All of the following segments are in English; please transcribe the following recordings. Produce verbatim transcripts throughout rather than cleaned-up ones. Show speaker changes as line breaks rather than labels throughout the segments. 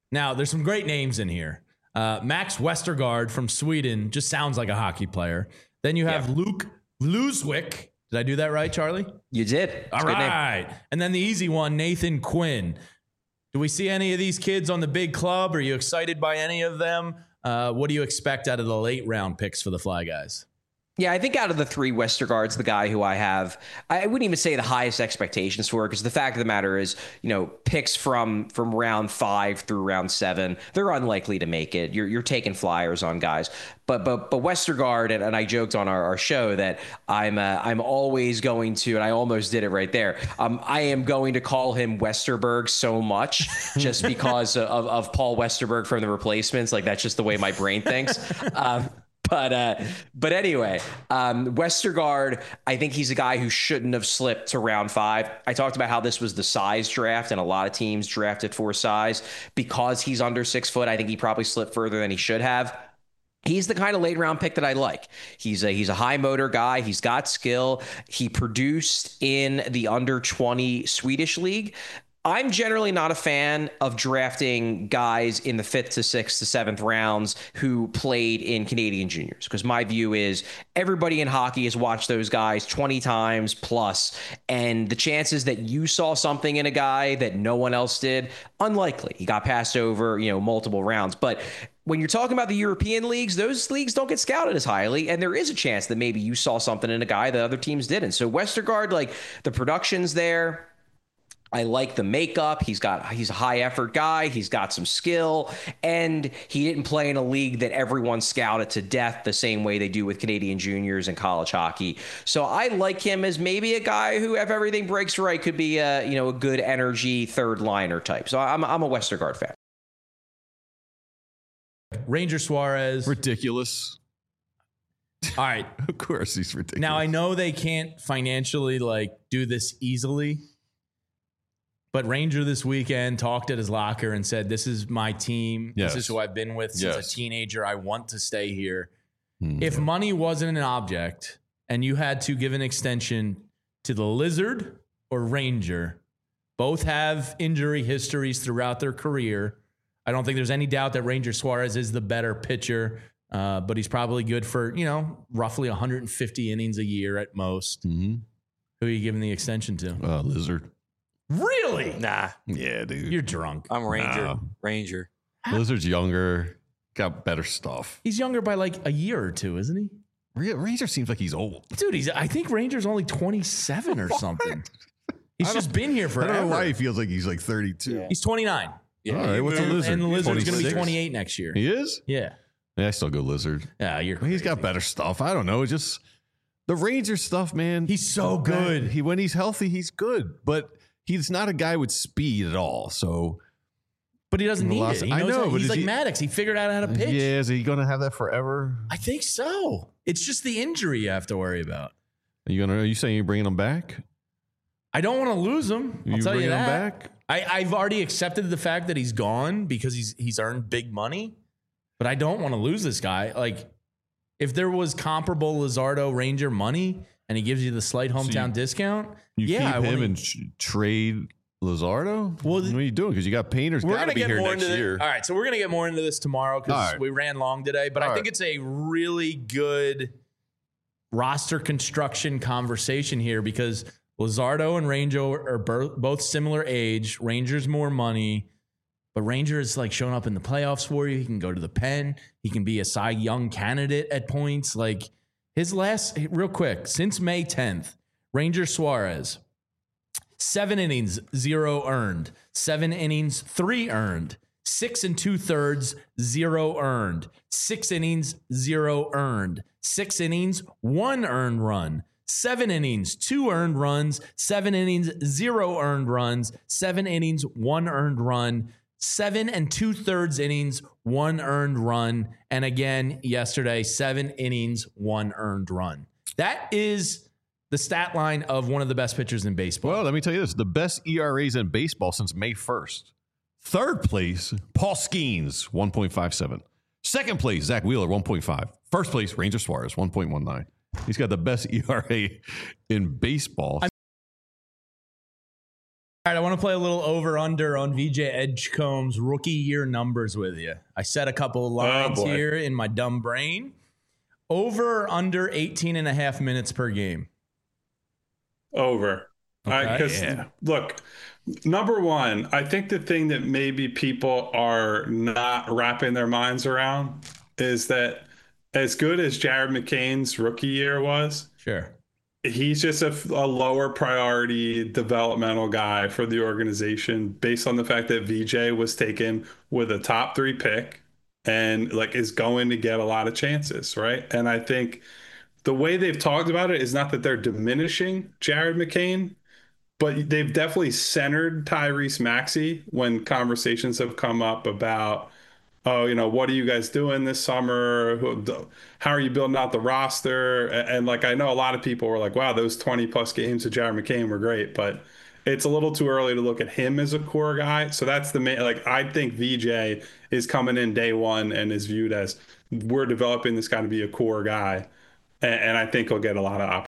Now, there's some great names in here. Uh, Max Westergaard from Sweden just sounds like a hockey player. Then you have yeah. Luke Luswick. Did I do that right, Charlie?
You did. It's
All right. And then the easy one, Nathan Quinn. Do we see any of these kids on the big club? Are you excited by any of them? Uh, what do you expect out of the late round picks for the Fly Guys?
Yeah, I think out of the three, Westergaard's the guy who I have, I wouldn't even say the highest expectations for, because the fact of the matter is, you know, picks from from round five through round seven, they're unlikely to make it. You're you're taking flyers on guys. But but but Westergaard, and, and I joked on our, our show that I'm uh, I'm always going to, and I almost did it right there. Um, I am going to call him Westerberg so much just because of, of Paul Westerberg from The Replacements. Like, that's just the way my brain thinks. Um, But uh, but anyway, um, Westergaard, I think he's a guy who shouldn't have slipped to round five. I talked about how this was the size draft, and a lot of teams drafted for size. Because he's under six foot, I think he probably slipped further than he should have. He's the kind of late round pick that I like. He's a he's a high motor guy. He's got skill. He produced in the under twenty Swedish league. I'm generally not a fan of drafting guys in the fifth to sixth to seventh rounds who played in Canadian juniors, because my view is everybody in hockey has watched those guys twenty times plus, and the chances that you saw something in a guy that no one else did, unlikely. He got passed over, you know, multiple rounds. But when you're talking about the European leagues, those leagues don't get scouted as highly, and there is a chance that maybe you saw something in a guy that other teams didn't. So Westergaard, like, the production's there. I like the makeup. He's got he's a high effort guy. He's got some skill, and he didn't play in a league that everyone scouted to death the same way they do with Canadian juniors and college hockey. So I like him as maybe a guy who, if everything breaks right, could be a, you know, a good energy third liner type. So I'm I'm a Westergaard fan.
Ranger Suarez.
Ridiculous.
All right.
Of course he's ridiculous.
Now I know they can't financially like do this easily. But Ranger this weekend talked at his locker and said, this is my team.
Yes.
This is who I've been with since
yes.
a teenager. I want to stay here.
Mm.
If money wasn't an object and you had to give an extension to the Lizard or Ranger, both have injury histories throughout their career. I don't think there's any doubt that Ranger Suarez is the better pitcher, uh, but he's probably good for, you know, roughly one hundred fifty innings a year at most.
Mm-hmm.
Who are you giving the extension to?
Uh, Lizard.
Really?
Nah.
Yeah, dude.
You're drunk.
I'm Ranger.
Nah.
Ranger.
Lizard's younger, got better stuff.
He's younger by like a year or two, isn't he?
Ranger seems like he's old.
Dude, he's. I think Ranger's only twenty-seven or something. He's just been here forever.
I don't know why he feels like he's like thirty-two.
Yeah.
He's twenty-nine.
Yeah. All right, what's
and,
a Lizard?
And the Lizard's going to be
twenty-six?
twenty-eight next year.
He is?
Yeah.
Yeah, I still go Lizard.
Yeah, you're
He's got better stuff. I don't know. It's just the Ranger stuff, man.
He's so good.
He when he's healthy, he's good. But he's not a guy with speed at all. So,
but he doesn't need it. He
I
knows
know.
how,
But
he's like
he,
Maddox. He figured out how to pitch.
Yeah, is he going to have that forever?
I think so. It's just the injury you have to worry about.
Are you gonna? Are you saying you're bringing him back?
I don't want to lose him. I'll
you
tell you
bringing
that.
him back?
I, I've already accepted the fact that he's gone because he's he's earned big money, but I don't want to lose this guy. Like, if there was comparable Lizardo Ranger money and he gives you the slight hometown
So you,
discount,
you
yeah,
keep
I
him
wanna,
and tr- trade Lizardo.
Well,
what are you doing? Because you got Painter's
we're
got to
gonna
be
get
here
more
next
into
year.
The, all right, so we're gonna get more into this tomorrow because
right.
we ran long today. But
all
I think
right.
it's a really good roster construction conversation here because Lizardo and Ranger are both similar age. Ranger's more money, but Ranger is like showing up in the playoffs for you. He can go to the pen. He can be a Cy Young candidate at points. Like his last, real quick, since May tenth, Ranger Suarez, seven innings, zero earned. Seven innings, three earned. Six and two thirds, zero earned. Six innings, zero earned. Six innings, one earned run. Seven innings, two earned runs. Seven innings, zero earned runs. Seven innings, one earned run. Seven and two thirds innings, one earned run. And again, yesterday, seven innings, one earned run. That is the stat line of one of the best pitchers in baseball.
Well, let me tell you this. The best E R As in baseball since May first. Third place, Paul Skeens, one point five seven. Second place, Zach Wheeler, one point five. First place, Ranger Suarez, one point one nine. He's got the best E R A in baseball.
All right, I want to play a little over under on V J Edgecombe's rookie year numbers with you. I set a couple of lines
Oh,
here in my dumb brain. Over or under eighteen and a half minutes per game.
Over. Because,
Okay.
yeah. look, number one, I think the thing that maybe people are not wrapping their minds around is that as good as Jared McCain's rookie year was,
Sure.
he's just a, a lower priority developmental guy for the organization based on the fact that V J was taken with a top three pick and like is going to get a lot of chances, right? And I think the way they've talked about it is not that they're diminishing Jared McCain, but they've definitely centered Tyrese Maxey when conversations have come up about, oh, you know, what are you guys doing this summer? How are you building out the roster? And, and like, I know a lot of people were like, wow, those twenty plus games of Jared McCain were great, but it's a little too early to look at him as a core guy. So that's the main, like, I think V J is coming in day one and is viewed as we're developing this guy to be a core guy. And, and I think he'll get a lot of opportunities.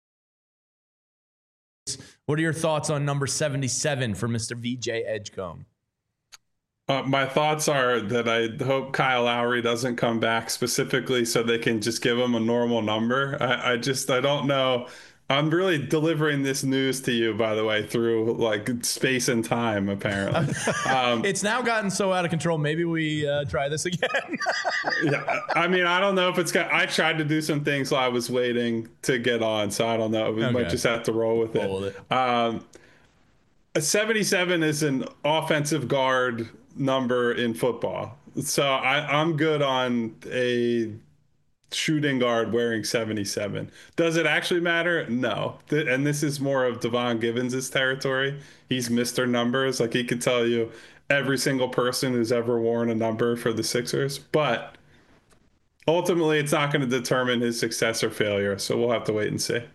What are your thoughts on number seventy-seven for Mister V J Edgecombe?
Uh, my thoughts are that I hope Kyle Lowry doesn't come back specifically so they can just give him a normal number. I, I just, I don't know. I'm really delivering this news to you, by the way, through like space and time, apparently. Um,
It's now gotten so out of control. Maybe we uh, try this again.
yeah, I mean, I don't know if it's got, I tried to do some things while I was waiting to get on, so I don't know. We
Okay.
might just have to roll with it.
Roll with it.
Um, a seventy-seven is an offensive guard number in football. So I, I'm good on a shooting guard wearing seventy-seven. Does it actually matter? No. Th- and this is more of Devon Givens' territory. He's Mister Numbers. Like he could tell you every single person who's ever worn a number for the Sixers. But ultimately, it's not going to determine his success or failure. So we'll have to wait and see.